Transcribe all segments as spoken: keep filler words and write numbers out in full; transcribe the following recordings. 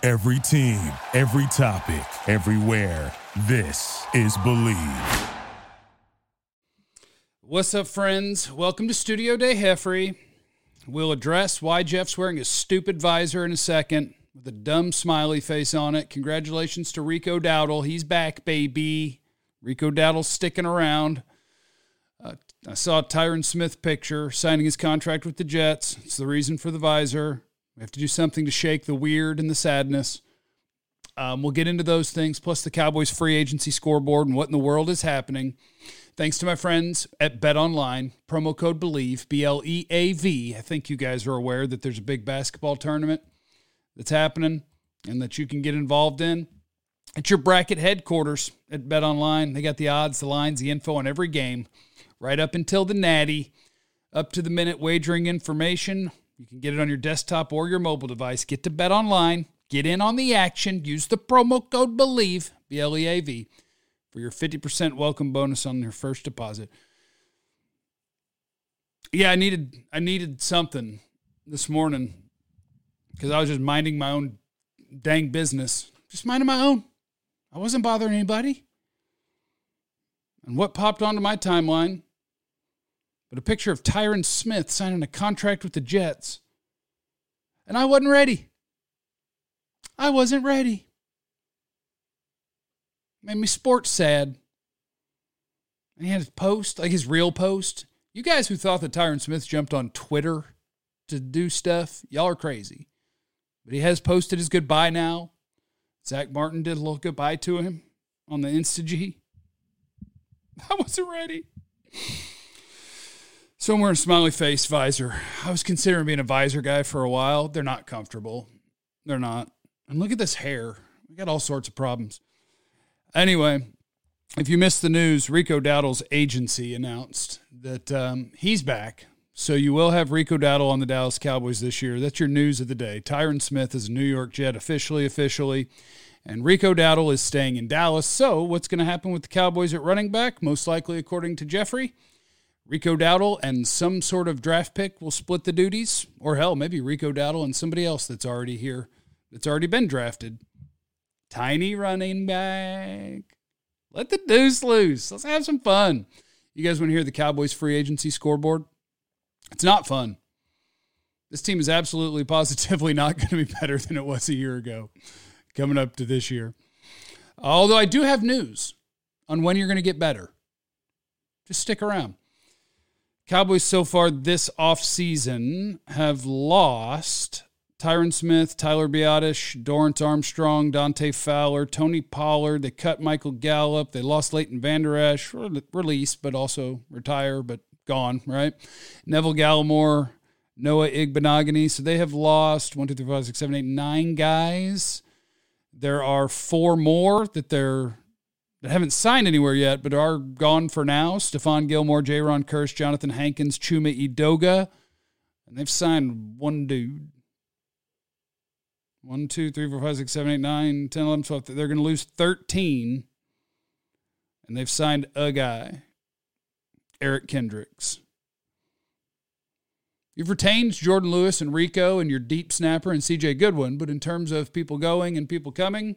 Every team, every topic, everywhere. This is Believe. What's up, friends? Welcome to Studio Day Heffrey. We'll address why Jeff's wearing a stupid visor in a second with a dumb smiley face on it. Congratulations to Rico Dowdle. He's back, baby. Rico Dowdle's sticking around. Uh, I saw a Tyron Smith picture signing his contract with the Jets. It's the reason for the visor. We have to do something to shake the weird and the sadness. Um, we'll get into those things, plus the Cowboys free agency scoreboard and what in the world is happening. Thanks to my friends at BetOnline, promo code BELIEVE, B L E A V. I think you guys are aware that there's a big basketball tournament that's happening and that you can get involved in. It's your bracket headquarters at BetOnline. They got the odds, the lines, the info on every game, right up until the natty, up to the minute wagering information. You can get it on your desktop or your mobile device. Get to BetOnline. Get in on the action. Use the promo code BELIEVE, B L E A V, for your fifty percent welcome bonus on your first deposit. Yeah, I needed I needed something this morning because I was just minding my own dang business. Just minding my own. I wasn't bothering anybody. And what popped onto my timeline but a picture of Tyron Smith signing a contract with the Jets. And I wasn't ready. I wasn't ready. Made me sports sad. And he had his post, like his real post. You guys who thought that Tyron Smith jumped on Twitter to do stuff, y'all are crazy. But he has posted his goodbye now. Zach Martin did a little goodbye to him on the Insta-G. I wasn't ready. So I'm wearing a smiley face visor. I was considering being a visor guy for a while. They're not comfortable. They're not. And look at this hair. We got all sorts of problems. Anyway, if you missed the news, Rico Dowdle's agency announced that um, he's back. So you will have Rico Dowdle on the Dallas Cowboys this year. That's your news of the day. Tyron Smith is a New York Jet officially, officially. And Rico Dowdle is staying in Dallas. So what's going to happen with the Cowboys at running back? Most likely, according to Jeffrey, Rico Dowdle and some sort of draft pick will split the duties. Or hell, maybe Rico Dowdle and somebody else that's already here, that's already been drafted. Tiny running back. Let the deuce loose. Let's have some fun. You guys want to hear the Cowboys free agency scoreboard? It's not fun. This team is absolutely positively not going to be better than it was a year ago coming up to this year. Although I do have news on when you're going to get better. Just stick around. Cowboys so far this offseason have lost Tyron Smith, Tyler Biadasz, Dorrance Armstrong, Dante Fowler, Tony Pollard. They cut Michael Gallup. They lost Leighton Vander Esch, released, but also retire, but gone, right? Neville Gallimore, Noah Igbenogany. So they have lost one, two, three, four, five, six, seven, eight, nine guys. There are four more that they're that haven't signed anywhere yet, but are gone for now. Stephon Gilmore, Jaron Kearse, Jonathan Hankins, Chuma Edoga. And they've signed one dude. One, two, three, four, five, six, seven, eight, nine, ten, eleven, twelve. They're going to lose thirteen. And they've signed a guy, Eric Kendricks. You've retained Jordan Lewis and Rico and your deep snapper and C J Goodwin, but in terms of people going and people coming,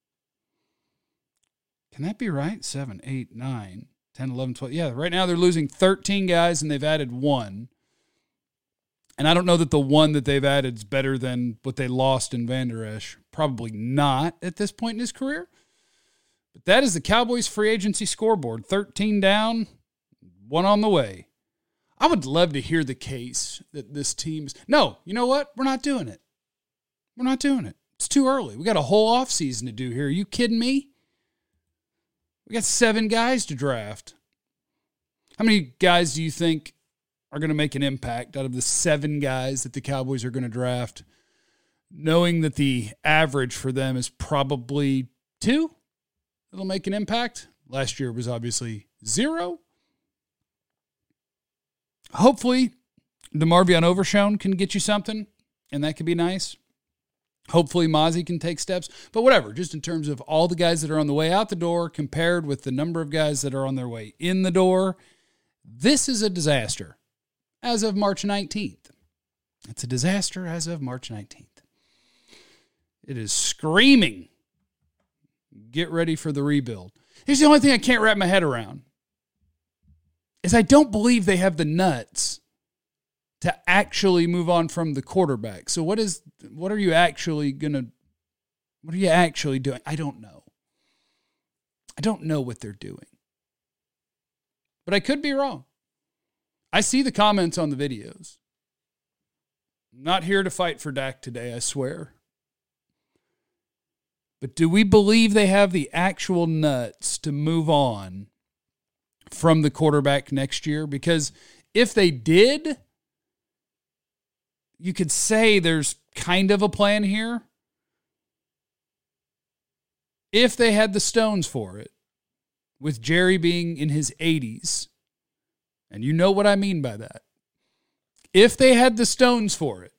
can that be right? seven, eight, nine, ten, eleven, twelve. Yeah, right now they're losing thirteen guys and they've added one. And I don't know that the one that they've added is better than what they lost in Vander Esch. Probably not at this point in his career. But that is the Cowboys free agency scoreboard. thirteen down, one on the way. I would love to hear the case that this team's... No, you know what? We're not doing it. We're not doing it. It's too early. We got a whole offseason to do here. Are you kidding me? We got seven guys to draft. How many guys do you think are going to make an impact out of the seven guys that the Cowboys are going to draft, knowing that the average for them is probably two that'll make an impact? Last year was obviously zero. Hopefully, the Marvion Overshone can get you something, and that could be nice. Hopefully, Mozzie can take steps. But whatever, just in terms of all the guys that are on the way out the door compared with the number of guys that are on their way in the door, this is a disaster as of March nineteenth. It's a disaster as of March nineteenth. It is screaming. Get ready for the rebuild. Here's the only thing I can't wrap my head around is I don't believe they have the nuts to actually move on from the quarterback. So what is, what are you actually going to, what are you actually doing? I don't know. I don't know what they're doing. But I could be wrong. I see the comments on the videos. I'm not here to fight for Dak today, I swear. But do we believe they have the actual nuts to move on from the quarterback next year? Because if they did, you could say there's kind of a plan here. If they had the stones for it, with Jerry being in his eighties, and you know what I mean by that. If they had the stones for it,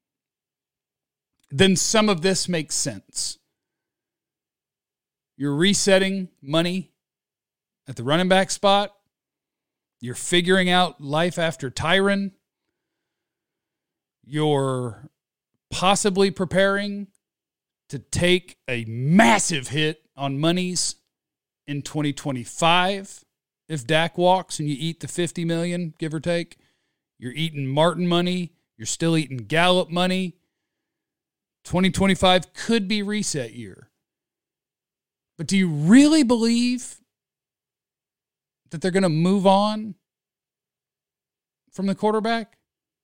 then some of this makes sense. You're resetting money at the running back spot. You're figuring out life after Tyron. You're possibly preparing to take a massive hit on monies in twenty twenty-five. If Dak walks and you eat the fifty million dollars, give or take, you're eating Martin money. You're still eating Gallup money. twenty twenty-five could be reset year. But do you really believe that they're going to move on from the quarterback?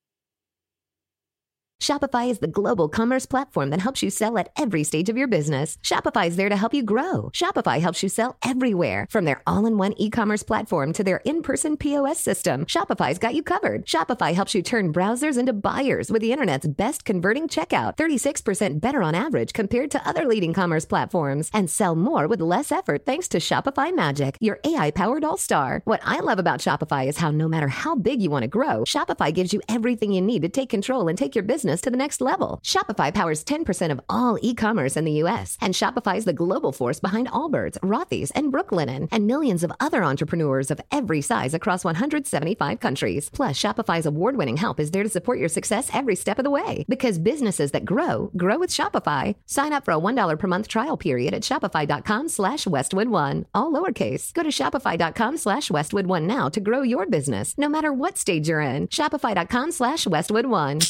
Shopify is the global commerce platform that helps you sell at every stage of your business. Shopify is there to help you grow. Shopify helps you sell everywhere, from their all-in-one e-commerce platform to their in-person P O S system. Shopify's got you covered. Shopify helps you turn browsers into buyers with the internet's best converting checkout, thirty-six percent better on average compared to other leading commerce platforms, and sell more with less effort thanks to Shopify Magic, your A I-powered all-star. What I love about Shopify is how no matter how big you want to grow, Shopify gives you everything you need to take control and take your business to the next level. Shopify powers ten percent of all e-commerce in the U S, and Shopify is the global force behind Allbirds, Rothy's, and Brooklinen, and millions of other entrepreneurs of every size across one hundred seventy-five countries. Plus, Shopify's award-winning help is there to support your success every step of the way, because businesses that grow, grow with Shopify. Sign up for a one dollar per month trial period at shopify.com slash Westwood One, all lowercase. Go to shopify.com slash Westwood One now to grow your business, no matter what stage you're in. Shopify.com slash Westwood One.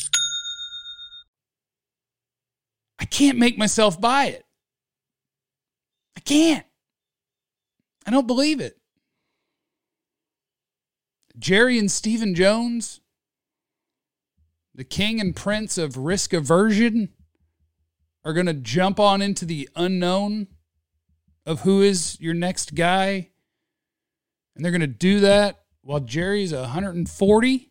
I can't make myself buy it. I can't. I don't believe it. Jerry and Stephen Jones, the king and prince of risk aversion, are going to jump on into the unknown of who is your next guy. And they're going to do that while Jerry's one hundred forty.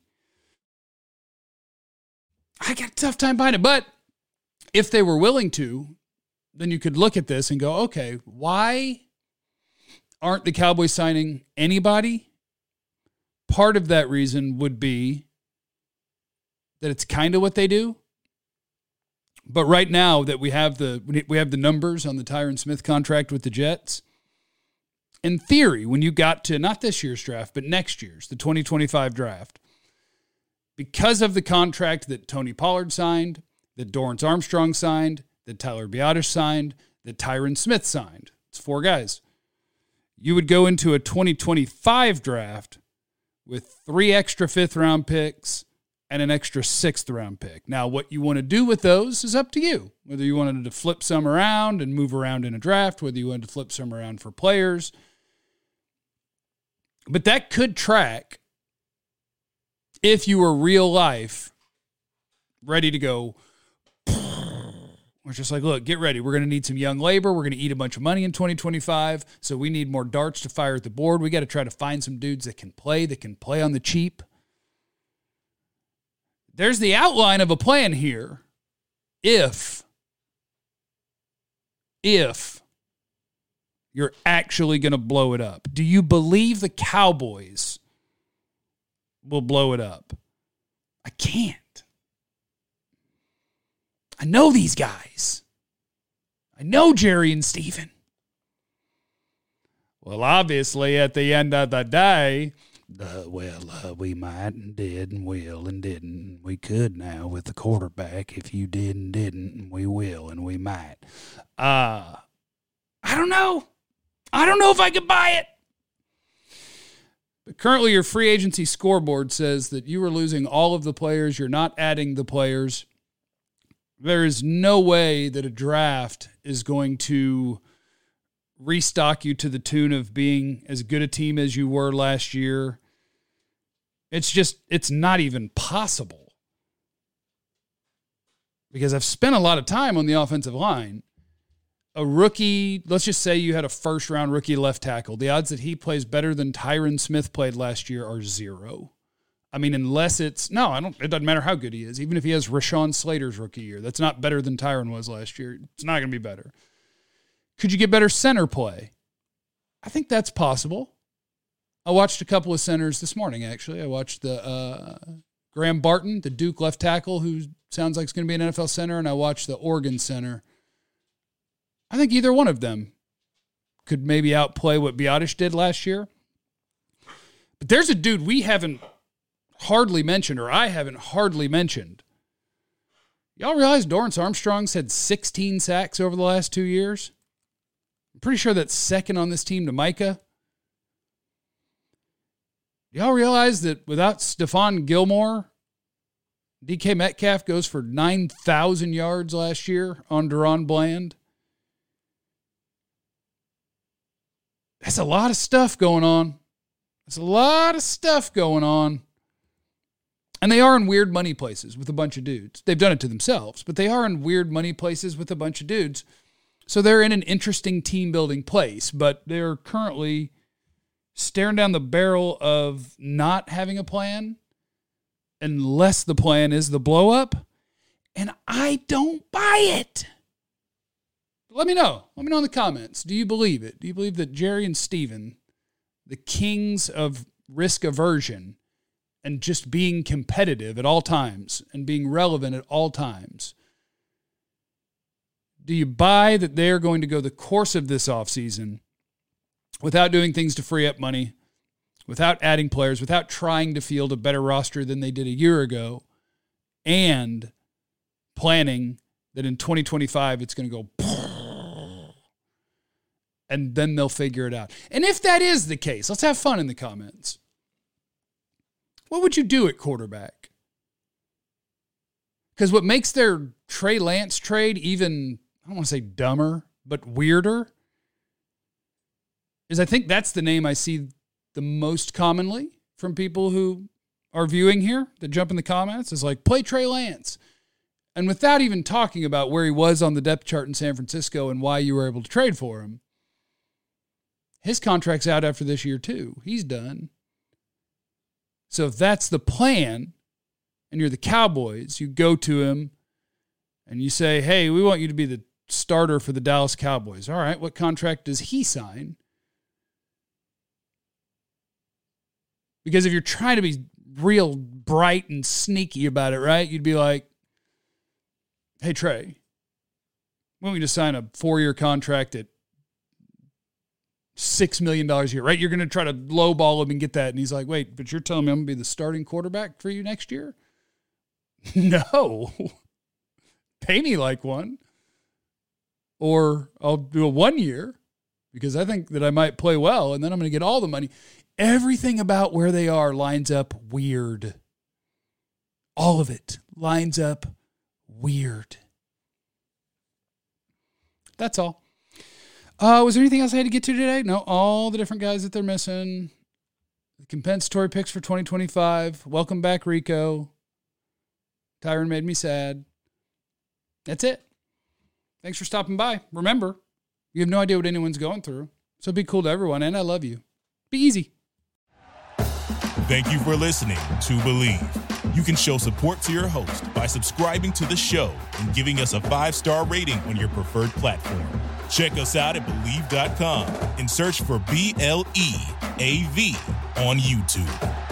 I got a tough time buying it, but if they were willing to, then you could look at this and go, okay, why aren't the Cowboys signing anybody? Part of that reason would be that it's kind of what they do. But right now that we have the we have the numbers on the Tyron Smith contract with the Jets, in theory, when you got to not this year's draft, but next year's, the twenty twenty-five draft, because of the contract that Tony Pollard signed, that Dorrance Armstrong signed, that Tyler Biadasz signed, that Tyron Smith signed. It's four guys. You would go into a twenty twenty-five draft with three extra fifth-round picks and an extra sixth-round pick. Now, what you want to do with those is up to you. Whether you wanted to flip some around and move around in a draft, whether you wanted to flip some around for players. But that could track if you were real life ready to go. We're just like, look, get ready. We're going to need some young labor. We're going to eat a bunch of money in twenty twenty-five. So we need more darts to fire at the board. We got to try to find some dudes that can play, that can play on the cheap. There's the outline of a plan here. If, if you're actually going to blow it up. Do you believe the Cowboys will blow it up? I can't. I know these guys. I know Jerry and Stephen. Well, obviously, at the end of the day, uh, well, uh, we might and did and will and didn't. We could now with the quarterback if you did and didn't, and we will and we might. Uh, I don't know. I don't know if I could buy it. But currently your free agency scoreboard says that you are losing all of the players. You're not adding the players. There is no way that a draft is going to restock you to the tune of being as good a team as you were last year. It's just, it's not even possible. Because I've spent a lot of time on the offensive line. A rookie, let's just say you had a first-round rookie left tackle. The odds that he plays better than Tyron Smith played last year are zero. I mean, unless it's, no, I don't. It doesn't matter how good he is. Even if he has Rashawn Slater's rookie year, that's not better than Tyron was last year. It's not going to be better. Could you get better center play? I think that's possible. I watched a couple of centers this morning, actually. I watched the uh, Graham Barton, the Duke left tackle, who sounds like he's going to be an N F L center, and I watched the Oregon center. I think either one of them could maybe outplay what Biotish did last year. But there's a dude we haven't hardly mentioned, or I haven't hardly mentioned. Y'all realize Dorrance Armstrong's had sixteen sacks over the last two years? I'm pretty sure that's second on this team to Micah. Y'all realize that without Stephon Gilmore, D K Metcalf goes for nine thousand yards last year on Deron Bland? That's a lot of stuff going on. That's a lot of stuff going on. And they are in weird money places with a bunch of dudes. They've done it to themselves, but they are in weird money places with a bunch of dudes. So they're in an interesting team-building place, but they're currently staring down the barrel of not having a plan unless the plan is the blow-up. And I don't buy it. Let me know. Let me know in the comments. Do you believe it? Do you believe that Jerry and Steven, the kings of risk aversion and just being competitive at all times and being relevant at all times, do you buy that they're going to go the course of this offseason without doing things to free up money, without adding players, without trying to field a better roster than they did a year ago, and planning that in twenty twenty-five it's going to go and then they'll figure it out? And if that is the case, let's have fun in the comments. What would you do at quarterback? Because what makes their Trey Lance trade even, I don't want to say dumber, but weirder, is I think that's the name I see the most commonly from people who are viewing here that jump in the comments, is like, play Trey Lance. And without even talking about where he was on the depth chart in San Francisco and why you were able to trade for him, his contract's out after this year too. He's done. So if that's the plan and you're the Cowboys, you go to him and you say, hey, we want you to be the starter for the Dallas Cowboys. All right, what contract does he sign? Because if you're trying to be real bright and sneaky about it, right, you'd be like, hey, Trey, we want you to sign a four-year contract at six million dollars a year, right? You're going to try to lowball him and get that. And he's like, wait, but you're telling me I'm going to be the starting quarterback for you next year? No. Pay me like one. Or I'll do a one year because I think that I might play well and then I'm going to get all the money. Everything about where they are lines up weird. All of it lines up weird. That's all. Uh, was there anything else I had to get to today? No, all the different guys that they're missing. The compensatory picks for twenty twenty-five. Welcome back, Rico. Tyron made me sad. That's it. Thanks for stopping by. Remember, you have no idea what anyone's going through, so be cool to everyone, and I love you. Be easy. Thank you for listening to Believe. You can show support to your host by subscribing to the show and giving us a five-star rating on your preferred platform. Check us out at Believe dot com and search for B L E A V on YouTube.